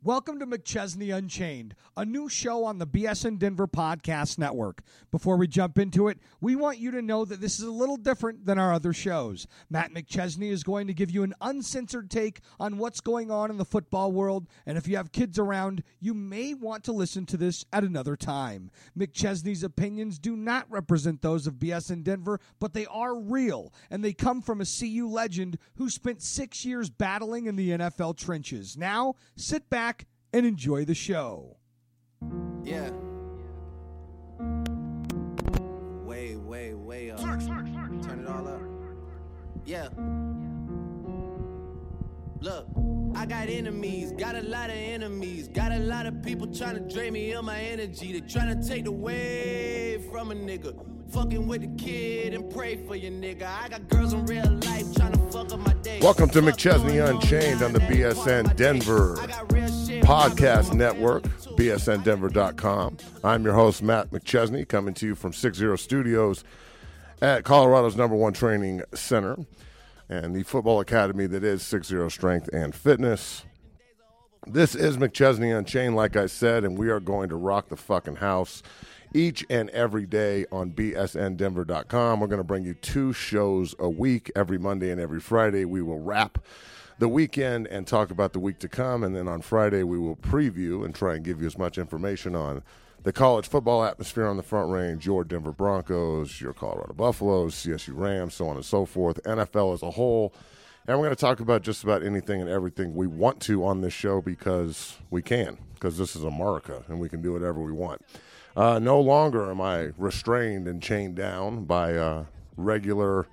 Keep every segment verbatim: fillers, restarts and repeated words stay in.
Welcome to McChesney Unchained, a new show on the B S N Denver Podcast Network. Before we jump into it, we want you to know that this is a little different than our other shows. Matt McChesney is going to give you an uncensored take on what's going on in the football world, and if you have kids around, you may want to listen to this at another time. McChesney's opinions do not represent those of B S N Denver, but they are real, and they come from a C U legend who spent six years battling in the N F L trenches. Now, sit back and enjoy the show. Yeah. Way, way, way up. Turn it all up. Yeah. Look, I got enemies, got a lot of enemies, got a lot of people trying to drain me of my energy. They trying to take away from a nigga. Fucking with the kid and pray for your nigga. I got girls in real life trying to fuck up my day. Welcome to McChesney Unchained on the B S N Denver Podcast Network, B S N Denver dot com. I'm your host, Matt McChesney, coming to you from six zero Studios at Colorado's number one training center and the football academy that is six zero Strength and Fitness. This is McChesney Unchained, like I said, and we are going to rock the fucking house each and every day on B S N Denver dot com. We're going to bring you two shows a week, every Monday and every Friday. We will wrap the weekend and talk about the week to come, and then on Friday we will preview and try and give you as much information on the college football atmosphere on the Front Range, your Denver Broncos, your Colorado Buffaloes, C S U Rams, so on and so forth, N F L as a whole. And we're going to talk about just about anything and everything we want to on this show because we can, because this is America and we can do whatever we want. Uh, no longer am I restrained and chained down by uh, regular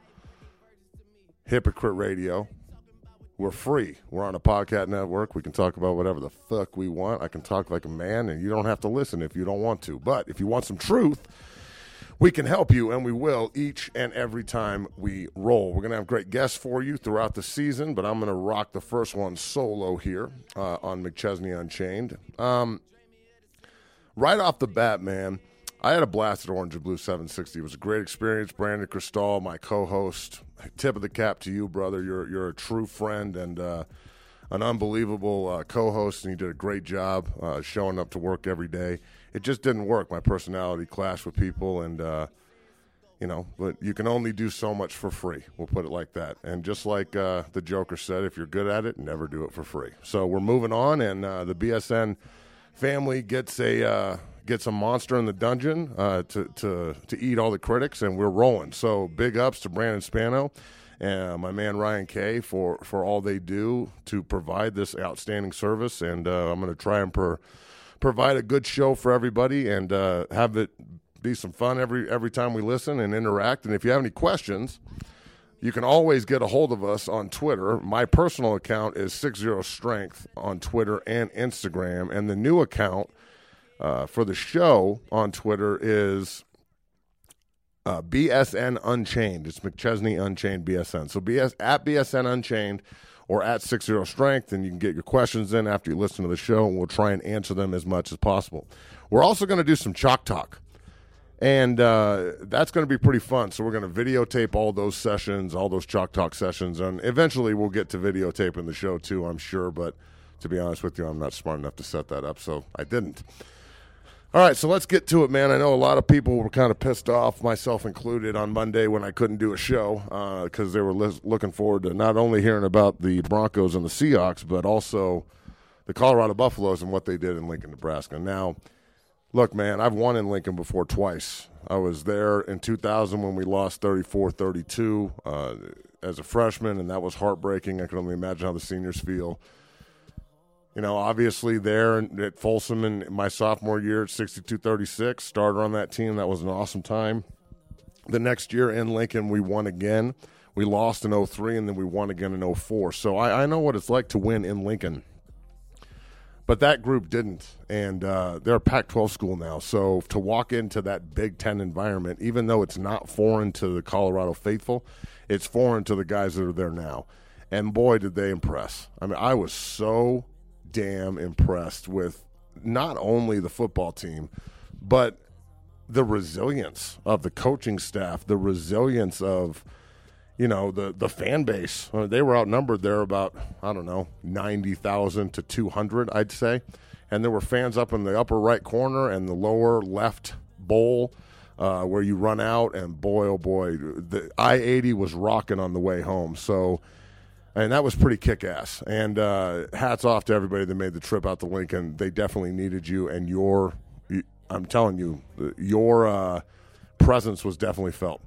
hypocrite radio. We're free. We're on a podcast network. We can talk about whatever the fuck we want. I can talk like a man, and you don't have to listen if you don't want to. But if you want some truth, we can help you, and we will each and every time we roll. We're going to have great guests for you throughout the season, but I'm going to rock the first one solo here uh, on McChesney Unchained. Um, right off the bat, man, I had a blast at Orange and Blue seven sixty. It was a great experience. Brandon Cristal, my co-host, tip of the cap to you, brother. You're you're a true friend and uh, an unbelievable uh, co-host, and you did a great job uh, showing up to work every day. It just didn't work. My personality clashed with people, and, uh, you know, but you can only do so much for free. We'll put it like that. And just like uh, the Joker said, if you're good at it, never do it for free. So we're moving on, and uh, the B S N family gets a uh, gets a monster in the dungeon uh, to, to, to eat all the critics, and we're rolling. So big ups to Brandon Spano and my man Ryan Kay for, for all they do to provide this outstanding service. And uh, I'm going to try and per, provide a good show for everybody and uh, have it be some fun every every time we listen and interact. And if you have any questions, you can always get a hold of us on Twitter. My personal account is six zero Strength on Twitter and Instagram. And the new account uh, for the show on Twitter is uh, B S N Unchained. It's McChesney Unchained B S N. So B S, at B S N Unchained or at six zero Strength, and you can get your questions in after you listen to the show, and we'll try and answer them as much as possible. We're also going to do some Chalk Talk. And uh, that's going to be pretty fun. So we're going to videotape all those sessions, all those Chalk Talk sessions. And eventually we'll get to videotaping the show too, I'm sure. But to be honest with you, I'm not smart enough to set that up, so I didn't. All right, so let's get to it, man. I know a lot of people were kind of pissed off, myself included, on Monday when I couldn't do a show because uh, they were li- looking forward to not only hearing about the Broncos and the Seahawks, but also the Colorado Buffaloes and what they did in Lincoln, Nebraska. Now, look, man, I've won in Lincoln before twice. I was there in two thousand when we lost thirty-four thirty-two uh, as a freshman, and that was heartbreaking. I can only imagine how the seniors feel. You know, obviously there at Folsom in my sophomore year at sixty-two thirty-six, starter on that team. That was an awesome time. The next year in Lincoln, we won again. We lost in oh three, and then we won again in oh four. So I, I know what it's like to win in Lincoln. But that group didn't, and uh, they're a Pac twelve school now. So to walk into that Big Ten environment, even though it's not foreign to the Colorado faithful, it's foreign to the guys that are there now. And boy, did they impress. I mean, I was so damn impressed with not only the football team, but the resilience of the coaching staff, the resilience of, you know, the, the fan base, uh, they were outnumbered there about, I don't know, ninety thousand to two hundred, I'd say. And there were fans up in the upper right corner and the lower left bowl uh, where you run out. And, boy, oh, boy, the I eighty was rocking on the way home. So, and that was pretty kick-ass. And uh, hats off to everybody that made the trip out to Lincoln. They definitely needed you. And your, I'm telling you, your uh, presence was definitely felt.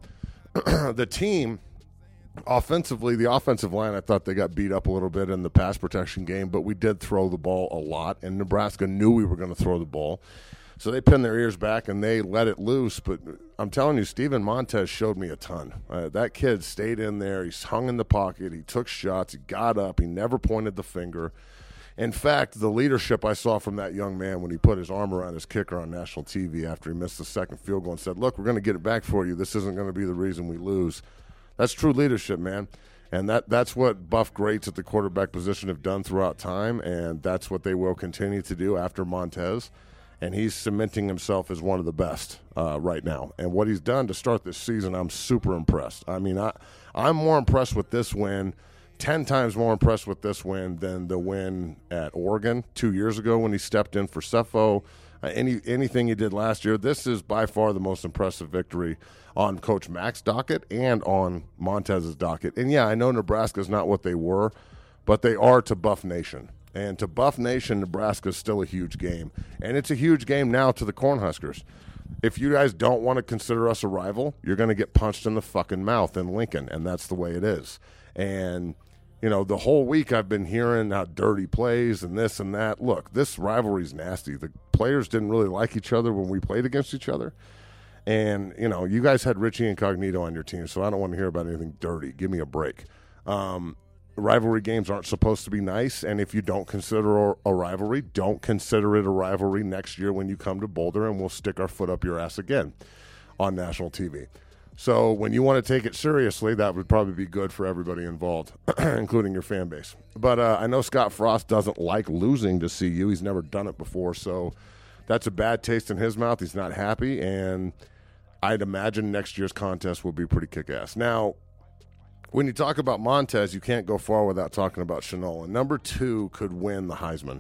The team – offensively, the offensive line, I thought they got beat up a little bit in the pass protection game, but we did throw the ball a lot, and Nebraska knew we were going to throw the ball. So they pinned their ears back, and they let it loose. But I'm telling you, Steven Montez showed me a ton. Uh, that kid stayed in there. He hung in the pocket. He took shots. He got up. He never pointed the finger. In fact, the leadership I saw from that young man when he put his arm around his kicker on national T V after he missed the second field goal and said, look, we're going to get it back for you. This isn't going to be the reason we lose. That's true leadership, man. And that, that's what Buff greats at the quarterback position have done throughout time, and that's what they will continue to do after Montez. And he's cementing himself as one of the best uh, right now. And what he's done to start this season, I'm super impressed. I mean, I, I'm more impressed with this win, ten times more impressed with this win than the win at Oregon two years ago when he stepped in for Cepho. Uh, any anything he did last year, this is by far the most impressive victory on Coach Mack's docket and on Montez's docket. And, yeah, I know Nebraska's not what they were, but they are to Buff Nation. And to Buff Nation, Nebraska is still a huge game. And it's a huge game now to the Cornhuskers. If you guys don't want to consider us a rival, you're going to get punched in the fucking mouth in Lincoln, and that's the way it is. And, you know, the whole week I've been hearing how dirty plays and this and that. Look, this rivalry's nasty. The players didn't really like each other when we played against each other. And, you know, you guys had Richie Incognito on your team, so I don't want to hear about anything dirty. Give me a break. Um, rivalry games aren't supposed to be nice, and if you don't consider a rivalry, don't consider it a rivalry next year when you come to Boulder, and we'll stick our foot up your ass again on national T V. So when you want to take it seriously, that would probably be good for everybody involved, including your fan base. But uh, I know Scott Frost doesn't like losing to C U. He's never done it before, so that's a bad taste in his mouth. He's not happy, and I'd imagine next year's contest will be pretty kick-ass. Now, when you talk about Montez, you can't go far without talking about Shenault. And number two could win the Heisman.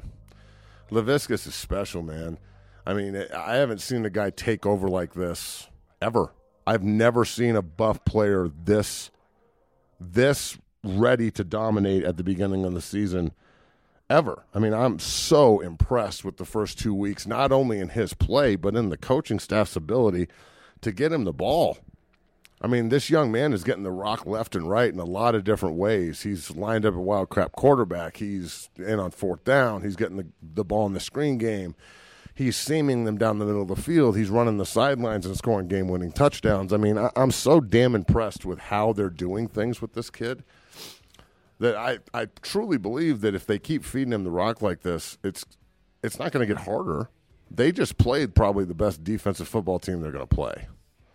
Laviscus is special, man. I mean, I haven't seen a guy take over like this ever. I've never seen a Buff player this this ready to dominate at the beginning of the season ever. I mean, I'm so impressed with the first two weeks, not only in his play, but in the coaching staff's ability to get him the ball. I mean, this young man is getting the rock left and right in a lot of different ways. He's lined up a wild crap quarterback. He's in on fourth down. He's getting the, the ball in the screen game. He's seaming them down the middle of the field. He's running the sidelines and scoring game-winning touchdowns. I mean, I, I'm so damn impressed with how they're doing things with this kid that I, I truly believe that if they keep feeding him the rock like this, it's it's not going to get harder. They just played probably the best defensive football team they're going to play.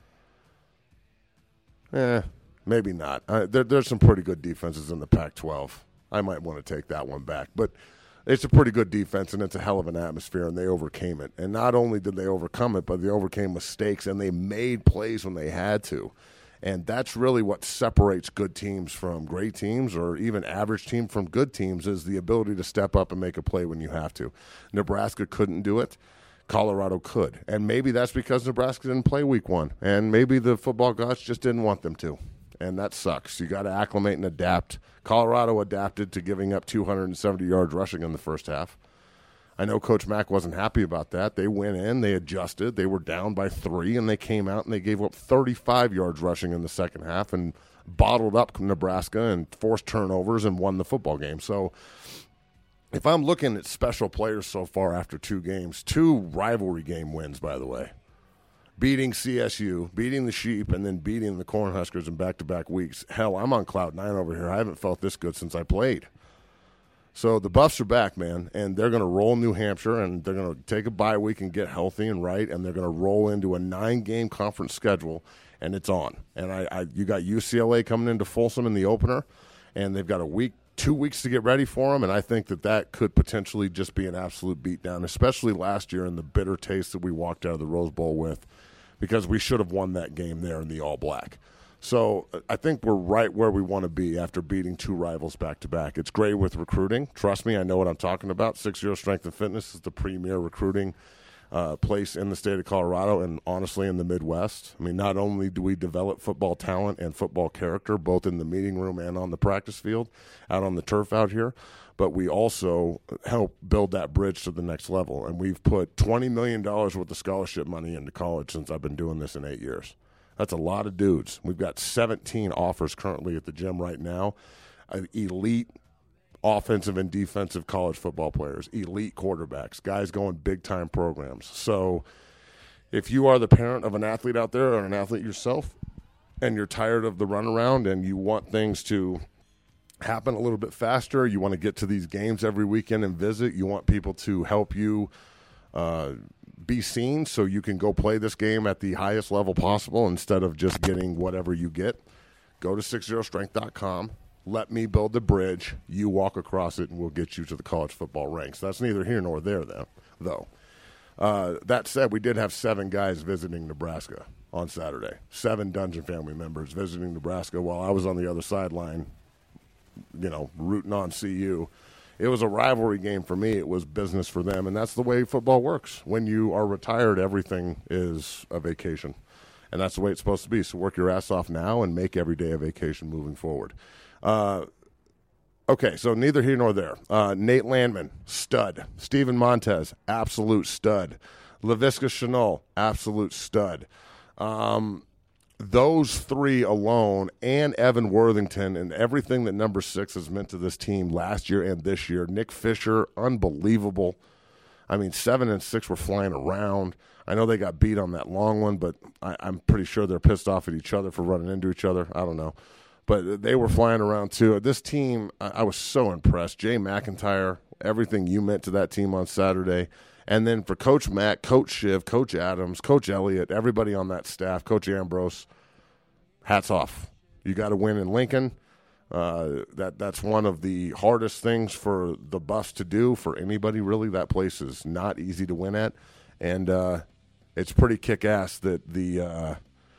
Eh, maybe not. Uh, there, there's some pretty good defenses in the Pac twelve. I might want to take that one back. But it's a pretty good defense, and it's a hell of an atmosphere, and they overcame it. And not only did they overcome it, but they overcame mistakes, and they made plays when they had to. And that's really what separates good teams from great teams, or even average team from good teams, is the ability to step up and make a play when you have to. Nebraska couldn't do it. Colorado could. And maybe that's because Nebraska didn't play week one. And maybe the football gods just didn't want them to. And that sucks. You got to acclimate and adapt. Colorado adapted to giving up two hundred seventy yards rushing in the first half. I know Coach Mack wasn't happy about that. They went in, they adjusted, they were down by three, and they came out and they gave up thirty-five yards rushing in the second half and bottled up Nebraska and forced turnovers and won the football game. So if I'm looking at special players so far after two games, two rivalry game wins, by the way, beating C S U, beating the Sheep, and then beating the Cornhuskers in back-to-back weeks. Hell, I'm on cloud nine over here. I haven't felt this good since I played. So the Buffs are back, man, and they're going to roll New Hampshire, and they're going to take a bye week and get healthy and right, and they're going to roll into a nine-game conference schedule, and it's on. And I, I, you got U C L A coming into Folsom in the opener, and they've got a week, two weeks to get ready for them, and I think that that could potentially just be an absolute beatdown, especially last year in the bitter taste that we walked out of the Rose Bowl with, because we should have won that game there in the all-black. So I think we're right where we want to be after beating two rivals back-to-back. It's great with recruiting. Trust me, I know what I'm talking about. six zero Strength and Fitness is the premier recruiting uh, place in the state of Colorado and, honestly, in the Midwest. I mean, not only do we develop football talent and football character, both in the meeting room and on the practice field, out on the turf out here, but we also help build that bridge to the next level. And we've put twenty million dollars worth of scholarship money into college since I've been doing this in eight years. That's a lot of dudes. We've got seventeen offers currently at the gym right now. Uh, elite offensive and defensive college football players, elite quarterbacks, guys going big-time programs. So if you are the parent of an athlete out there or an athlete yourself and you're tired of the runaround and you want things to happen a little bit faster, you want to get to these games every weekend and visit, you want people to help you uh, be seen so you can go play this game at the highest level possible instead of just getting whatever you get, go to six zero strength dot com. Let me build the bridge. You walk across it, and we'll get you to the college football ranks. That's neither here nor there, though. Uh, that said, we did have seven guys visiting Nebraska on Saturday, seven Dungeon family members visiting Nebraska while I was on the other sideline, you know, rooting on C U. It was a rivalry game for me. It was business for them, and that's the way football works. When you are retired, everything is a vacation, and that's the way it's supposed to be. So work your ass off now and make every day a vacation moving forward. Uh, okay, so neither here nor there. Uh, Nate Landman, stud. Steven Montez, absolute stud. Laviska Shenault, absolute stud. Um, those three alone and Evan Worthington and everything that number six has meant to this team last year and this year. Nick Fisher, unbelievable. I mean, seven and six were flying around. I know they got beat on that long one, but I, I'm pretty sure they're pissed off at each other for running into each other. I don't know. But they were flying around, too. This team, I, I was so impressed. Jay McIntyre, everything you meant to that team on Saturday. And then for Coach Matt, Coach Shiv, Coach Adams, Coach Elliott, everybody on that staff, Coach Ambrose, hats off. You got to win in Lincoln. Uh, that that's one of the hardest things for the Buffs to do, for anybody really. That place is not easy to win at. And uh, it's pretty kick-ass that the uh,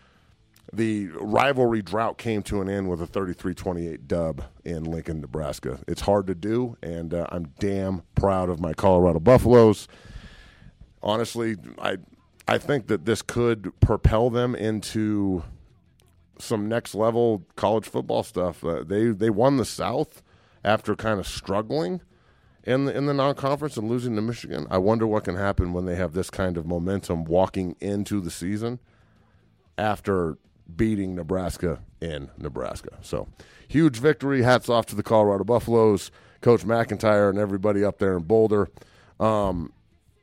the rivalry drought came to an end with a thirty-three twenty-eight dub in Lincoln, Nebraska. It's hard to do, and uh, I'm damn proud of my Colorado Buffaloes. Honestly, I I think that this could propel them into some next level college football stuff. Uh, they they won the South after kind of struggling in the in the non-conference and losing to Michigan. I wonder what can happen when they have this kind of momentum walking into the season after beating Nebraska in Nebraska. So huge victory. Hats off to the Colorado Buffaloes, Coach McIntyre, and everybody up there in Boulder. Um,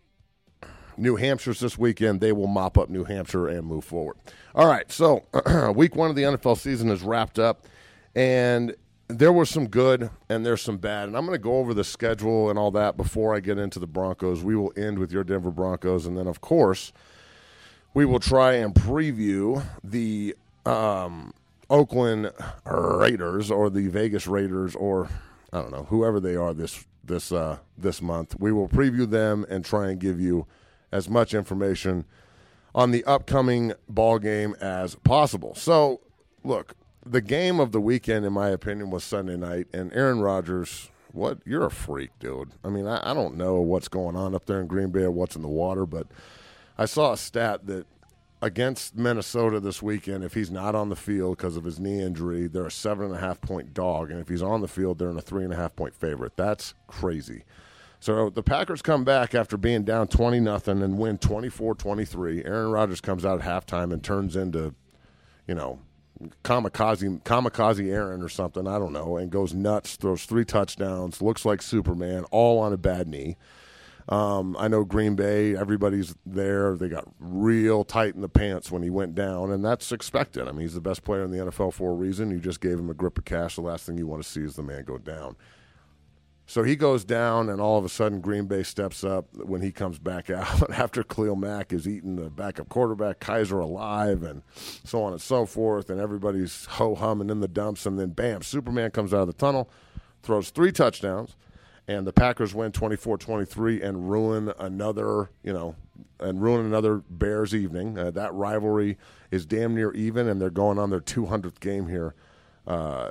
New Hampshire's this weekend. They will mop up New Hampshire and move forward. All right, so week one of the N F L season is wrapped up, and there was some good and there's some bad. And I'm going to go over the schedule and all that before I get into the Broncos. We will end with your Denver Broncos, and then, of course, we will try and preview the um, Oakland Raiders or the Vegas Raiders or, I don't know, whoever they are this this uh, this month. We will preview them and try and give you as much information on the upcoming ball game as possible. So, look, the game of the weekend, in my opinion, was Sunday night, and Aaron Rodgers, what? You're a freak, dude. I mean, I, I don't know what's going on up there in Green Bay or what's in the water, but I saw a stat that against Minnesota this weekend, if he's not on the field because of his knee injury, they're a seven and a half point dog, and if he's on the field, they're in a three and a half point favorite. That's crazy. So the Packers come back after being down twenty nothing and win twenty-four twenty-three. Aaron Rodgers comes out at halftime and turns into, you know, kamikaze kamikaze Aaron or something, I don't know, and goes nuts, throws three touchdowns, looks like Superman, all on a bad knee. Um, I know Green Bay, everybody's there. They got real tight in the pants when he went down, and that's expected. I mean, he's the best player in the N F L for a reason. You just gave him a grip of cash. The last thing you want to see is the man go down. So he goes down, and all of a sudden Green Bay steps up when he comes back out after Khalil Mack is eating the backup quarterback, Kaiser alive, and so on and so forth, and everybody's ho-humming in the dumps, and then, bam, Superman comes out of the tunnel, throws three touchdowns, and the Packers win twenty-four twenty-three and ruin another, you know, and ruin another Bears evening. Uh, that rivalry is damn near even, and they're going on their two hundredth game here uh,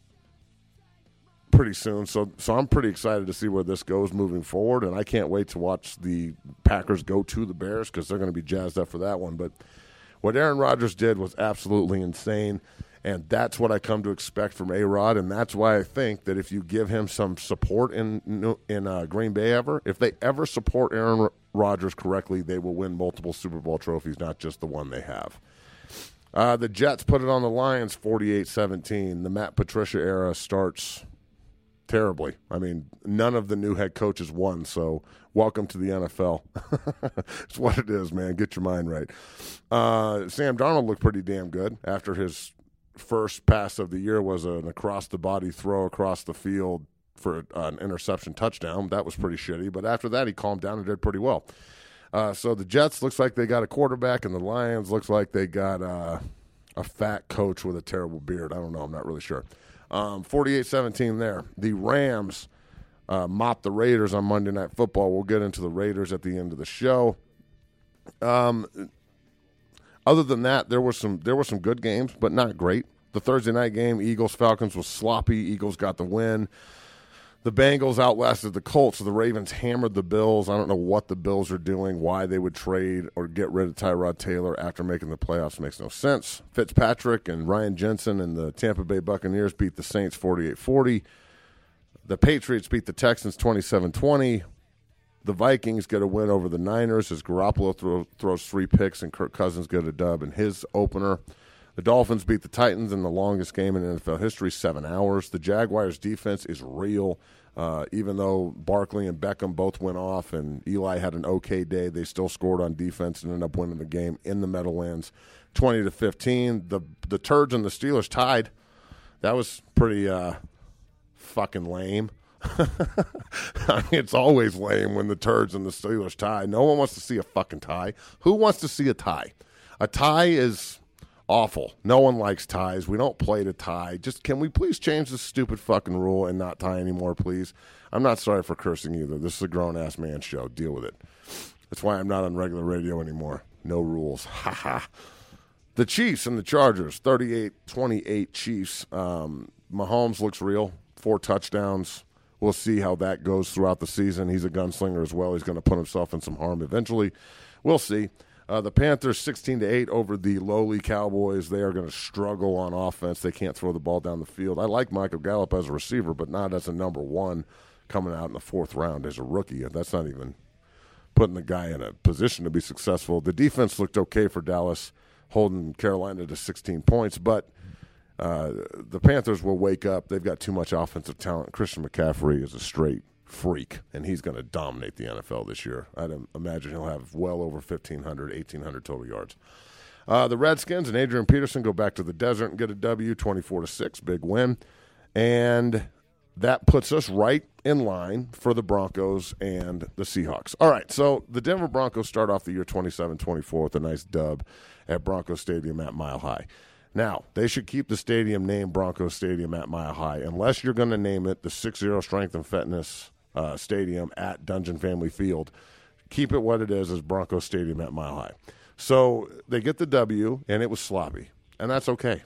pretty soon. So, so I'm pretty excited to see where this goes moving forward, and I can't wait to watch the Packers go to the Bears because they're going to be jazzed up for that one. But what Aaron Rodgers did was absolutely insane, and that's what I come to expect from A-Rod, and that's why I think that if you give him some support in in uh, Green Bay ever, if they ever support Aaron Rodgers correctly, they will win multiple Super Bowl trophies, not just the one they have. Uh, the Jets put it on the Lions forty-eight seventeen. The Matt Patricia era starts terribly. I mean, none of the new head coaches won, so welcome to the N F L. It's what it is, man. Get your mind right. Uh, Sam Darnold looked pretty damn good after his first pass of the year was an across-the-body throw across the field for an interception touchdown. That was pretty shitty, but after that he calmed down and did pretty well. Uh, so the Jets looks like they got a quarterback, and the Lions looks like they got uh, a fat coach with a terrible beard. I don't know. I'm not really sure. Um, forty-eight seventeen there. The Rams uh, mopped the Raiders on Monday Night Football. We'll get into the Raiders at the end of the show. Um, other than that, there were some there were some good games, but not great. The Thursday night game, Eagles-Falcons, was sloppy. Eagles got the win. The Bengals outlasted the Colts, so the Ravens hammered the Bills. I don't know what the Bills are doing, why they would trade or get rid of Tyrod Taylor after making the playoffs makes no sense. Fitzpatrick and Ryan Jensen and the Tampa Bay Buccaneers beat the Saints forty-eight forty. The Patriots beat the Texans twenty-seven twenty. The Vikings get a win over the Niners as Garoppolo throw, throws three picks and Kirk Cousins get a dub in his opener. The Dolphins beat the Titans in the longest game in N F L history, seven hours. The Jaguars' defense is real. Uh, even though Barkley and Beckham both went off and Eli had an okay day, they still scored on defense and ended up winning the game in the Meadowlands, twenty to fifteen. The the Turds and the Steelers tied. That was pretty uh, fucking lame. I mean, it's always lame when the Turds and the Steelers tie. No one wants to see a fucking tie. Who wants to see a tie? A tie is awful. No one likes ties. We don't play to tie. Just can we please change this stupid fucking rule and not tie anymore, please? I'm not sorry for cursing either. This is a grown-ass man show. Deal with it. That's why I'm not on regular radio anymore. No rules. Ha ha. The Chiefs and the Chargers, thirty-eight twenty-eight Chiefs. Um, Mahomes looks real. Four touchdowns. We'll see how that goes throughout the season. He's a gunslinger as well. He's going to put himself in some harm eventually. We'll see. Uh, the Panthers sixteen to eight over the lowly Cowboys. They are going to struggle on offense. They can't throw the ball down the field. I like Michael Gallup as a receiver, but not as a number one coming out in the fourth round as a rookie. That's not even putting the guy in a position to be successful. The defense looked okay for Dallas, holding Carolina to sixteen points, but uh, the Panthers will wake up. They've got too much offensive talent. Christian McCaffrey is a straight freak, and he's going to dominate the N F L this year. I'd imagine he'll have well over fifteen hundred, eighteen hundred total yards. Uh, the Redskins and Adrian Peterson go back to the desert and get a W, twenty-four to six, big win. And that puts us right in line for the Broncos and the Seahawks. All right, so the Denver Broncos start off the year twenty-seven twenty-four with a nice dub at Broncos Stadium at Mile High. Now, they should keep the stadium named Broncos Stadium at Mile High, unless you're going to name it the six zero Strength and Fitness uh, Stadium at Dungeon Family Field. Keep it what it is as Broncos Stadium at Mile High. So they get the W, and it was sloppy, and that's okay.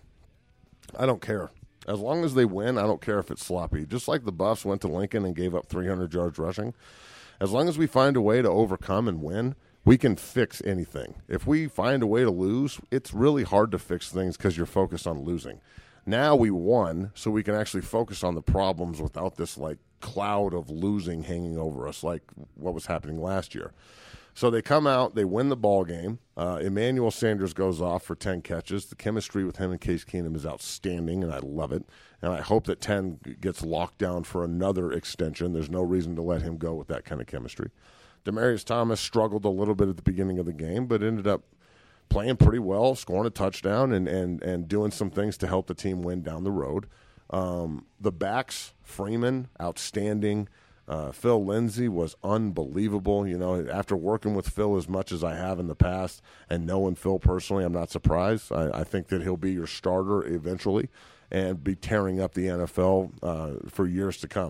I don't care. As long as they win, I don't care if it's sloppy. Just like the Buffs went to Lincoln and gave up three hundred yards rushing, as long as we find a way to overcome and win, we can fix anything. If we find a way to lose, it's really hard to fix things because you're focused on losing. Now we won, so we can actually focus on the problems without this like cloud of losing hanging over us like what was happening last year. So they come out, they win the ball game. Uh, Emmanuel Sanders goes off for ten catches. The chemistry with him and Case Keenum is outstanding, and I love it. And I hope that ten gets locked down for another extension. There's no reason to let him go with that kind of chemistry. Demaryius Thomas struggled a little bit at the beginning of the game, but ended up playing pretty well, scoring a touchdown, and and, and doing some things to help the team win down the road. Um, the backs, Freeman, outstanding. Uh, Phil Lindsay was unbelievable. You know, after working with Phil as much as I have in the past and knowing Phil personally, I'm not surprised. I, I think that he'll be your starter eventually and be tearing up the N F L uh, for years to come.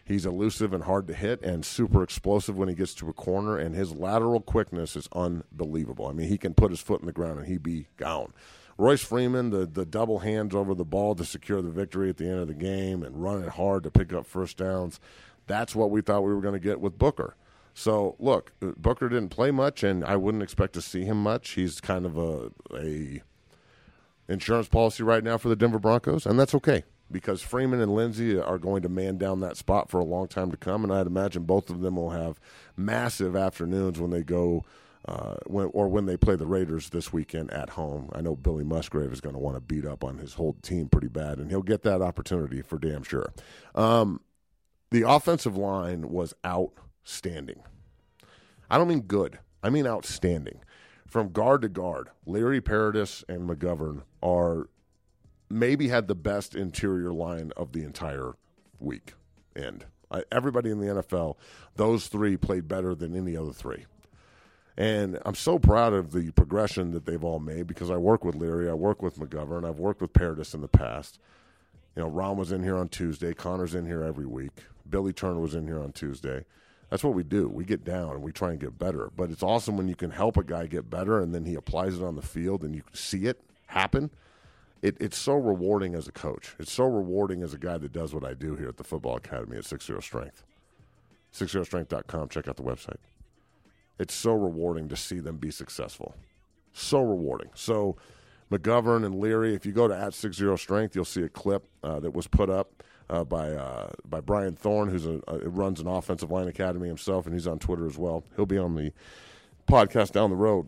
He's elusive and hard to hit and super explosive when he gets to a corner, and his lateral quickness is unbelievable. I mean, he can put his foot in the ground and he'd be gone. Royce Freeman, the, the double hands over the ball to secure the victory at the end of the game and run it hard to pick up first downs, that's what we thought we were going to get with Booker. So, look, Booker didn't play much, and I wouldn't expect to see him much. He's kind of a, a insurance policy right now for the Denver Broncos, and that's okay. Because Freeman and Lindsey are going to man down that spot for a long time to come, and I'd imagine both of them will have massive afternoons when they go, uh, when or when they play the Raiders this weekend at home. I know Billy Musgrave is going to want to beat up on his whole team pretty bad, and he'll get that opportunity for damn sure. Um, the offensive line was outstanding. I don't mean good. I mean outstanding. From guard to guard, Leary, Paradis, and McGovern are maybe had the best interior line of the entire week end. I, everybody in the N F L, those three played better than any other three. And I'm so proud of the progression that they've all made because I work with Leary, I work with McGovern, I've worked with Paradis in the past. You know, Ron was in here on Tuesday, Connor's in here every week, Billy Turner was in here on Tuesday. That's what we do. We get down and we try and get better. But it's awesome when you can help a guy get better and then he applies it on the field and you see it happen. It, it's so rewarding as a coach. It's so rewarding as a guy that does what I do here at the Football Academy at six zero Strength. six zero strength dot com. Check out the website. It's so rewarding to see them be successful. So rewarding. So McGovern and Leary, if you go to at six zero Strength, you'll see a clip uh, that was put up uh, by uh, by Brian Thorne, who's a, uh, runs an offensive line academy himself, and he's on Twitter as well. He'll be on the podcast down the road.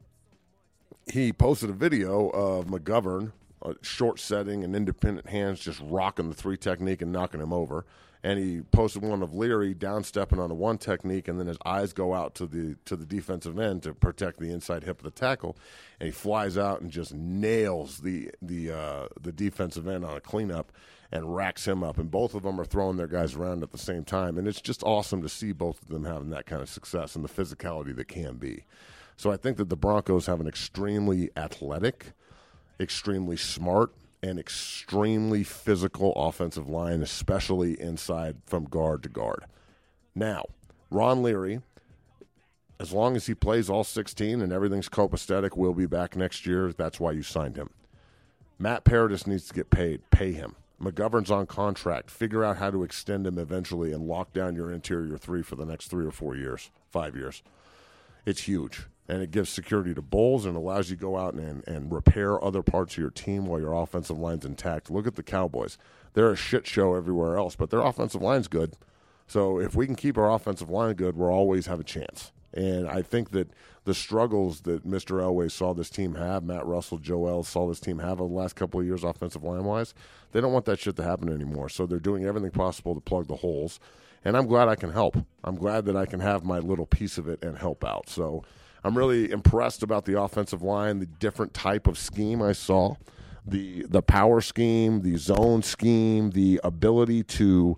He posted a video of McGovern, Uh, short setting and independent hands just rocking the three technique and knocking him over. And he posted one of Leary down stepping on a one technique, and then his eyes go out to the to the defensive end to protect the inside hip of the tackle, and he flies out and just nails the the uh, the defensive end on a cleanup and racks him up. And both of them are throwing their guys around at the same time, and it's just awesome to see both of them having that kind of success and the physicality that can be. So I think that the Broncos have an extremely athletic, extremely smart, and extremely physical offensive line, especially inside from guard to guard. Now, Ron Leary, as long as he plays all sixteen and everything's copacetic, will be back next year. That's why you signed him. Matt Paradis needs to get paid. Pay him. McGovern's on contract. Figure out how to extend him eventually and lock down your interior three for the next three or four years, five years. It's huge. And it gives security to Bulls and allows you to go out and, and repair other parts of your team while your offensive line's intact. Look at the Cowboys. They're a shit show everywhere else, but their offensive line's good. So if we can keep our offensive line good, we'll always have a chance. And I think that the struggles that Mister Elway saw this team have, Matt Russell, Joe Ells saw this team have over the last couple of years offensive line-wise, they don't want that shit to happen anymore. So they're doing everything possible to plug the holes. And I'm glad I can help. I'm glad that I can have my little piece of it and help out. So I'm really impressed about the offensive line, the different type of scheme I saw, the the power scheme, the zone scheme, the ability to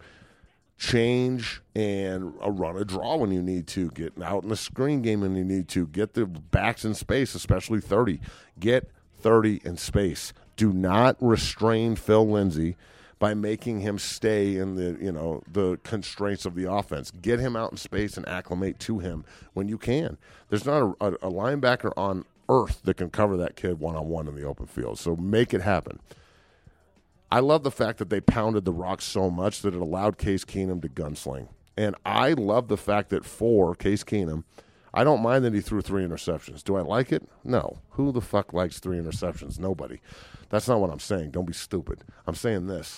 change and uh, run a draw when you need to, get out in the screen game when you need to, get the backs in space, especially thirty. Get thirty in space. Do not restrain Phil Lindsay by making him stay in the, you know, the constraints of the offense. Get him out in space and acclimate to him when you can. There's not a, a, a linebacker on earth that can cover that kid one-on-one in the open field, so make it happen. I love the fact that they pounded the rock so much that it allowed Case Keenum to gunsling. And I love the fact that for Case Keenum, I don't mind that he threw three interceptions. Do I like it? No. Who the fuck likes three interceptions? Nobody. That's not what I'm saying. Don't be stupid. I'm saying this.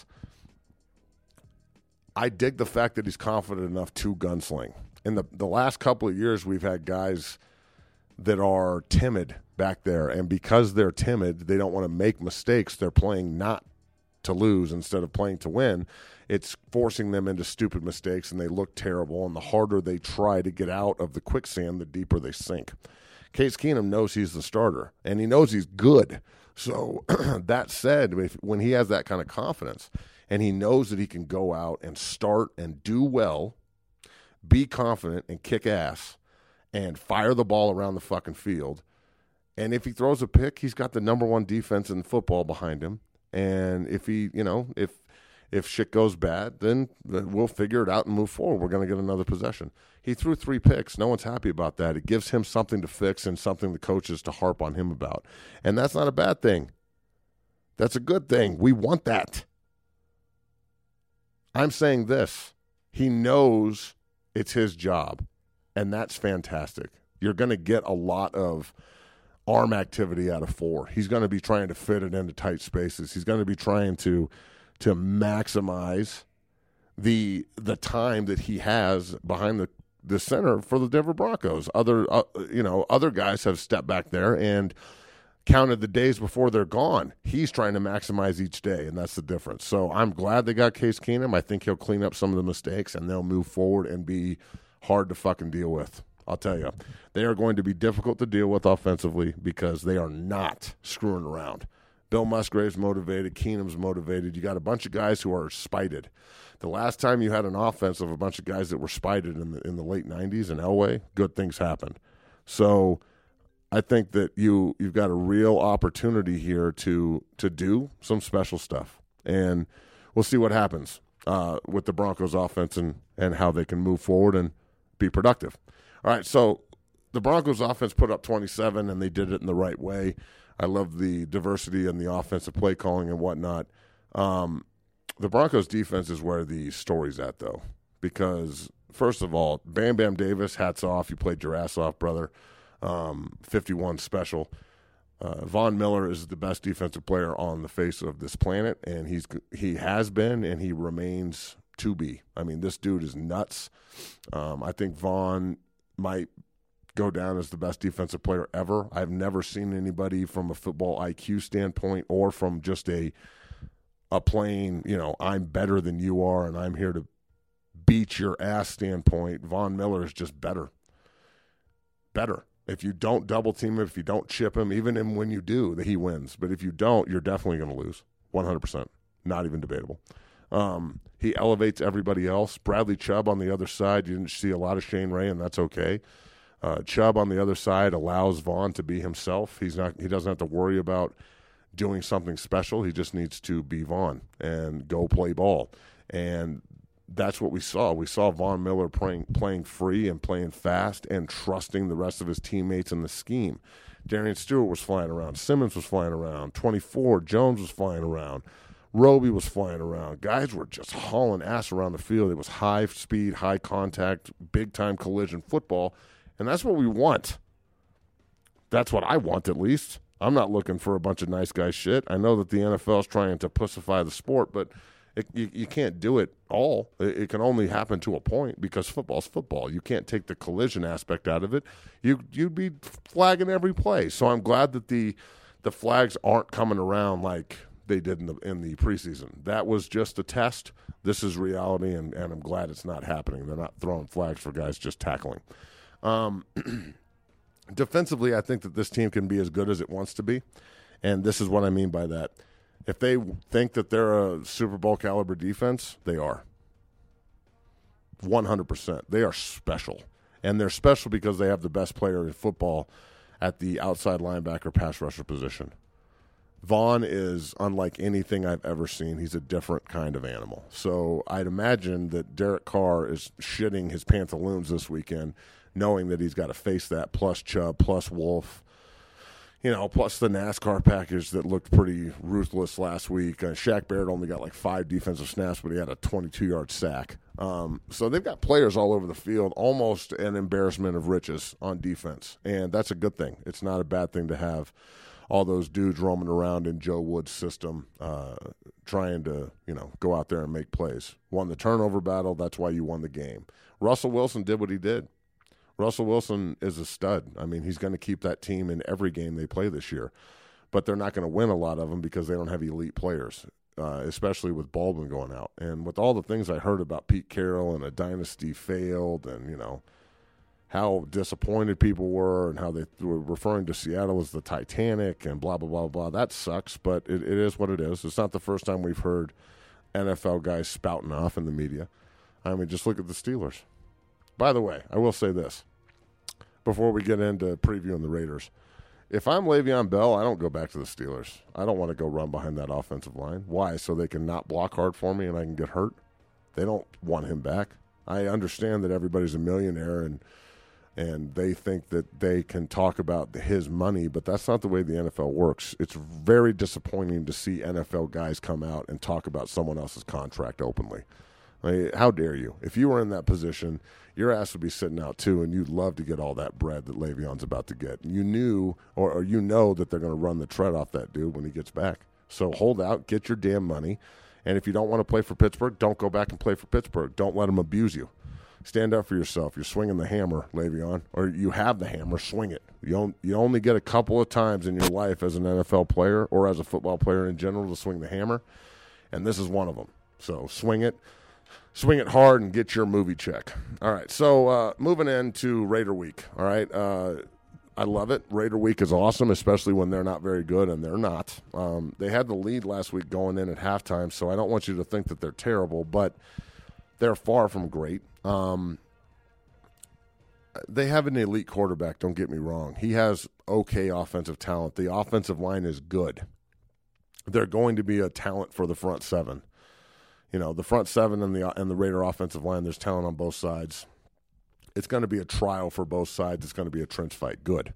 I dig the fact that he's confident enough to gunsling. In the, the last couple of years, we've had guys that are timid back there, and because they're timid, they don't want to make mistakes. They're playing not to lose instead of playing to win. It's forcing them into stupid mistakes, and they look terrible, and the harder they try to get out of the quicksand, the deeper they sink. Case Keenum knows he's the starter, and he knows he's good. So that said, if, when he has that kind of confidence and he knows that he can go out and start and do well, be confident and kick ass and fire the ball around the fucking field, and if he throws a pick, he's got the number one defense in football behind him. And if he, you know, if if shit goes bad, then we'll figure it out and move forward. We're going to get another possession. He threw three picks. No one's happy about that. It gives him something to fix and something the coaches to harp on him about. And that's not a bad thing. That's a good thing. We want that. I'm saying this. He knows it's his job, and that's fantastic. You're going to get a lot of arm activity out of four. He's going to be trying to fit it into tight spaces. He's going to be trying to to maximize the the time that he has behind the, the center for the Denver Broncos. Other uh, you know other guys have stepped back there and counted the days before they're gone. He's trying to maximize each day, and that's the difference. So I'm glad they got Case Keenum. I think he'll clean up some of the mistakes, and they'll move forward and be hard to fucking deal with. I'll tell you, they are going to be difficult to deal with offensively because they are not screwing around. Bill Musgrave's motivated. Keenum's motivated. You got a bunch of guys who are spited. The last time you had an offense of a bunch of guys that were spited in the in the late nineties in Elway, good things happened. So I think that you you've got a real opportunity here to to do some special stuff, and we'll see what happens uh, with the Broncos offense and and how they can move forward and be productive. All right, so the Broncos offense put up twenty-seven, and they did it in the right way. I love the diversity and the offensive play calling and whatnot. Um, the Broncos defense is where the story's at, though, because, first of all, Bam Bam Davis, hats off. You played your ass off, brother. Um, fifty-one special. Uh, Von Miller is the best defensive player on the face of this planet, and he's he has been, and he remains to be. I mean, this dude is nuts. Um, I think Von might go down as the best defensive player ever. I've never seen anybody from a football I Q standpoint or from just a a plain, you know, I'm better than you are and I'm here to beat your ass standpoint. Von Miller is just better. Better. If you don't double team him, if you don't chip him, even when you do, he wins. But if you don't, you're definitely going to lose. one hundred percent. Not even debatable. Um, he elevates everybody else. Bradley Chubb on the other side, you didn't see a lot of Shane Ray, and that's okay. Uh, Chubb on the other side allows Vaughn to be himself. He's not. He doesn't have to worry about doing something special. He just needs to be Vaughn and go play ball. And that's what we saw. We saw Von Miller playing, playing free and playing fast and trusting the rest of his teammates in the scheme. Darian Stewart was flying around. Simmons was flying around. twenty-four, Jones was flying around. Roby was flying around. Guys were just hauling ass around the field. It was high speed, high contact, big-time collision football, and that's what we want. That's what I want, at least. I'm not looking for a bunch of nice guy shit. I know that the N F L is trying to pussify the sport, but it, you, you can't do it all. It, it can only happen to a point because football's football. You can't take the collision aspect out of it. You, you'd be flagging every play. So I'm glad that the the flags aren't coming around like they did in the in the preseason. That was just a test. This is reality, and, and I'm glad it's not happening. They're not throwing flags for guys just tackling. Um, defensively, I think that this team can be as good as it wants to be, and this is what I mean by that. If they think that they're a Super Bowl caliber defense, they are. one hundred percent. They are special, and they're special because they have the best player in football at the outside linebacker pass rusher position. Vaughn is unlike anything I've ever seen. He's a different kind of animal. So I'd imagine that Derek Carr is shitting his pantaloons this weekend, knowing that he's got to face that, plus Chubb, plus Wolf, you know, plus the NASCAR package that looked pretty ruthless last week. Uh, Shaq Barrett only got like five defensive snaps, but he had a twenty-two-yard sack. Um, so they've got players all over the field, almost an embarrassment of riches on defense, and that's a good thing. It's not a bad thing to have all those dudes roaming around in Joe Woods' system, uh, trying to, you know, go out there and make plays. Won the turnover battle. That's why you won the game. Russell Wilson did what he did. Russell Wilson is a stud. I mean, he's going to keep that team in every game they play this year. But they're not going to win a lot of them because they don't have elite players, uh, especially with Baldwin going out. And with all the things I heard about Pete Carroll and a dynasty failed and, you know, how disappointed people were and how they were referring to Seattle as the Titanic and blah, blah, blah, blah. That sucks, but it, it is what it is. It's not the first time we've heard N F L guys spouting off in the media. I mean, just look at the Steelers. By the way, I will say this before we get into previewing the Raiders. If I'm Le'Veon Bell, I don't go back to the Steelers. I don't want to go run behind that offensive line. Why? So they can not block hard for me and I can get hurt? They don't want him back. I understand that everybody's a millionaire and and they think that they can talk about his money, but that's not the way the N F L works. It's very disappointing to see N F L guys come out and talk about someone else's contract openly. I mean, how dare you? If you were in that position, your ass would be sitting out too, and you'd love to get all that bread that Le'Veon's about to get. You knew, or, or you know that they're going to run the tread off that dude when he gets back. So hold out, get your damn money, and if you don't want to play for Pittsburgh, don't go back and play for Pittsburgh. Don't let them abuse you. Stand up for yourself. You're swinging the hammer, Le'Veon, or you have the hammer, swing it. You, don't, you only get a couple of times in your life as an N F L player or as a football player in general to swing the hammer, and this is one of them. So swing it. Swing it hard and get your movie check. All right, so uh, moving into Raider Week. All right, uh, I love it. Raider Week is awesome, especially when they're not very good, and they're not. Um, they had the lead last week going in at halftime, so I don't want you to think that they're terrible, but they're far from great. Um, they have an elite quarterback, don't get me wrong. He has okay offensive talent. The offensive line is good. They're going to be a talent for the front seven. You know, the front seven and the and the Raider offensive line, there's talent on both sides. It's going to be a trial for both sides. It's going to be a trench fight. Good.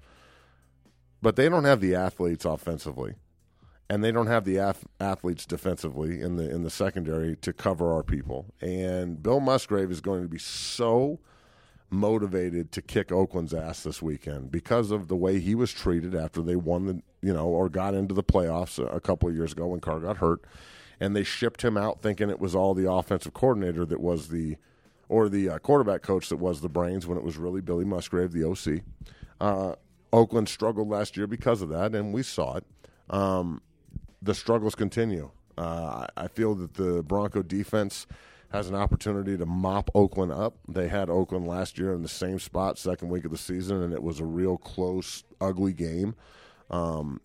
But they don't have the athletes offensively, and they don't have the ath- athletes defensively in the in the secondary to cover our people. And Bill Musgrave is going to be so motivated to kick Oakland's ass this weekend because of the way he was treated after they won the, you know, or got into the playoffs a, a couple of years ago when Carr got hurt. And they shipped him out thinking it was all the offensive coordinator that was the, or the uh, quarterback coach that was the brains when it was really Billy Musgrave, the O C. Uh, Oakland struggled last year because of that, and we saw it. Um, the struggles continue. Uh, I feel that the Bronco defense has an opportunity to mop Oakland up. They had Oakland last year in the same spot, second week of the season, and it was a real close, ugly game. Um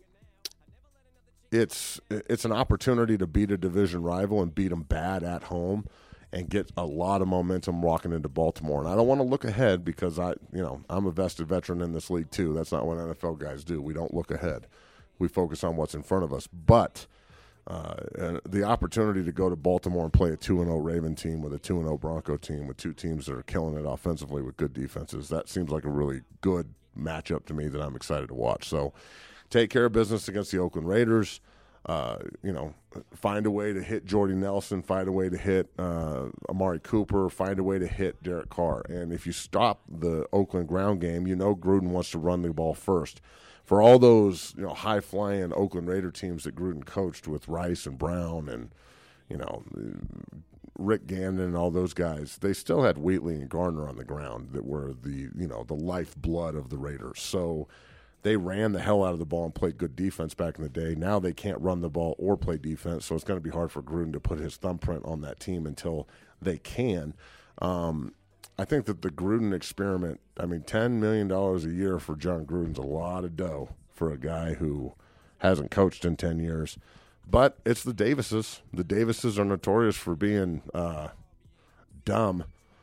It's it's an opportunity to beat a division rival and beat them bad at home and get a lot of momentum walking into Baltimore. And I don't want to look ahead because I, you know, I'm a vested veteran in this league too. That's not what N F L guys do. We don't look ahead. We focus on what's in front of us. But uh, the opportunity to go to Baltimore and play a two and oh Raven team with a two and oh Bronco team with two teams that are killing it offensively with good defenses, that seems like a really good matchup to me that I'm excited to watch. So take care of business against the Oakland Raiders. Uh, you know, find a way to hit Jordy Nelson, find a way to hit uh, Amari Cooper, find a way to hit Derek Carr. And if you stop the Oakland ground game, you know Gruden wants to run the ball first. For all those, you know, high-flying Oakland Raider teams that Gruden coached with Rice and Brown and, you know, Rick Gannon and all those guys, they still had Wheatley and Garner on the ground that were the, you know, the lifeblood of the Raiders. So they ran the hell out of the ball and played good defense back in the day. Now they can't run the ball or play defense, so it's going to be hard for Gruden to put his thumbprint on that team until they can. Um, I think that the Gruden experiment, I mean, ten million dollars a year for John Gruden's a lot of dough for a guy who hasn't coached in ten years. But it's the Davises. The Davises are notorious for being uh, dumb.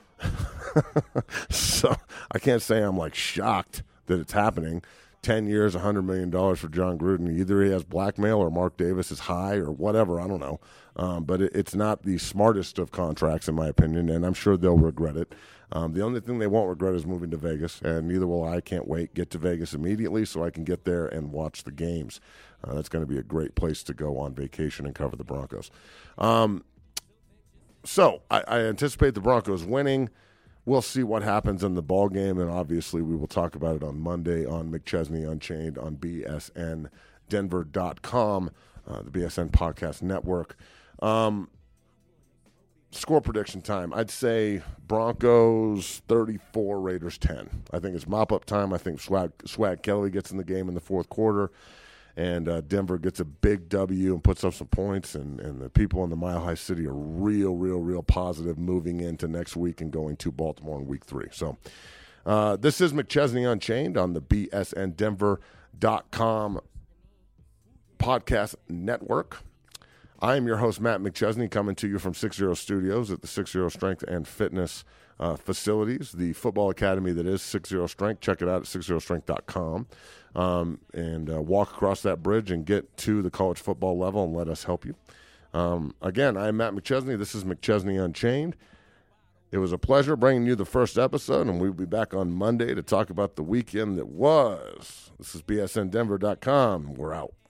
So I can't say I'm, like, shocked that it's happening. ten years, one hundred million dollars for John Gruden. Either he has blackmail or Mark Davis is high or whatever. I don't know. Um, but it, it's not the smartest of contracts, in my opinion, and I'm sure they'll regret it. Um, the only thing they won't regret is moving to Vegas, and neither will I. Can't wait. Get to Vegas immediately so I can get there and watch the games. Uh, that's going to be a great place to go on vacation and cover the Broncos. Um, so I, I anticipate the Broncos winning. We'll see what happens in the ball game, and obviously we will talk about it on Monday on McChesney Unchained on B S N Denver dot com, uh, the B S N Podcast Network. Um, score prediction time. I'd say Broncos thirty-four, Raiders ten. I think it's mop-up time. I think Swag, Swag Kelly gets in the game in the fourth quarter, and uh, Denver gets a big W and puts up some points, and, and the people in the Mile High City are real, real, real positive moving into next week and going to Baltimore in week three. So uh, this is McChesney Unchained on the B S N Denver dot com podcast network. I am your host, Matt McChesney, coming to you from six zero Studios at the six zero Strength and Fitness uh, facilities, the football academy that is six zero Strength. Check it out at six zero strength dot com. Um, and uh, walk across that bridge and get to the college football level and let us help you. Um, again, I'm Matt McChesney. This is McChesney Unchained. It was a pleasure bringing you the first episode, and we'll be back on Monday to talk about the weekend that was. This is B S N Denver dot com. We're out.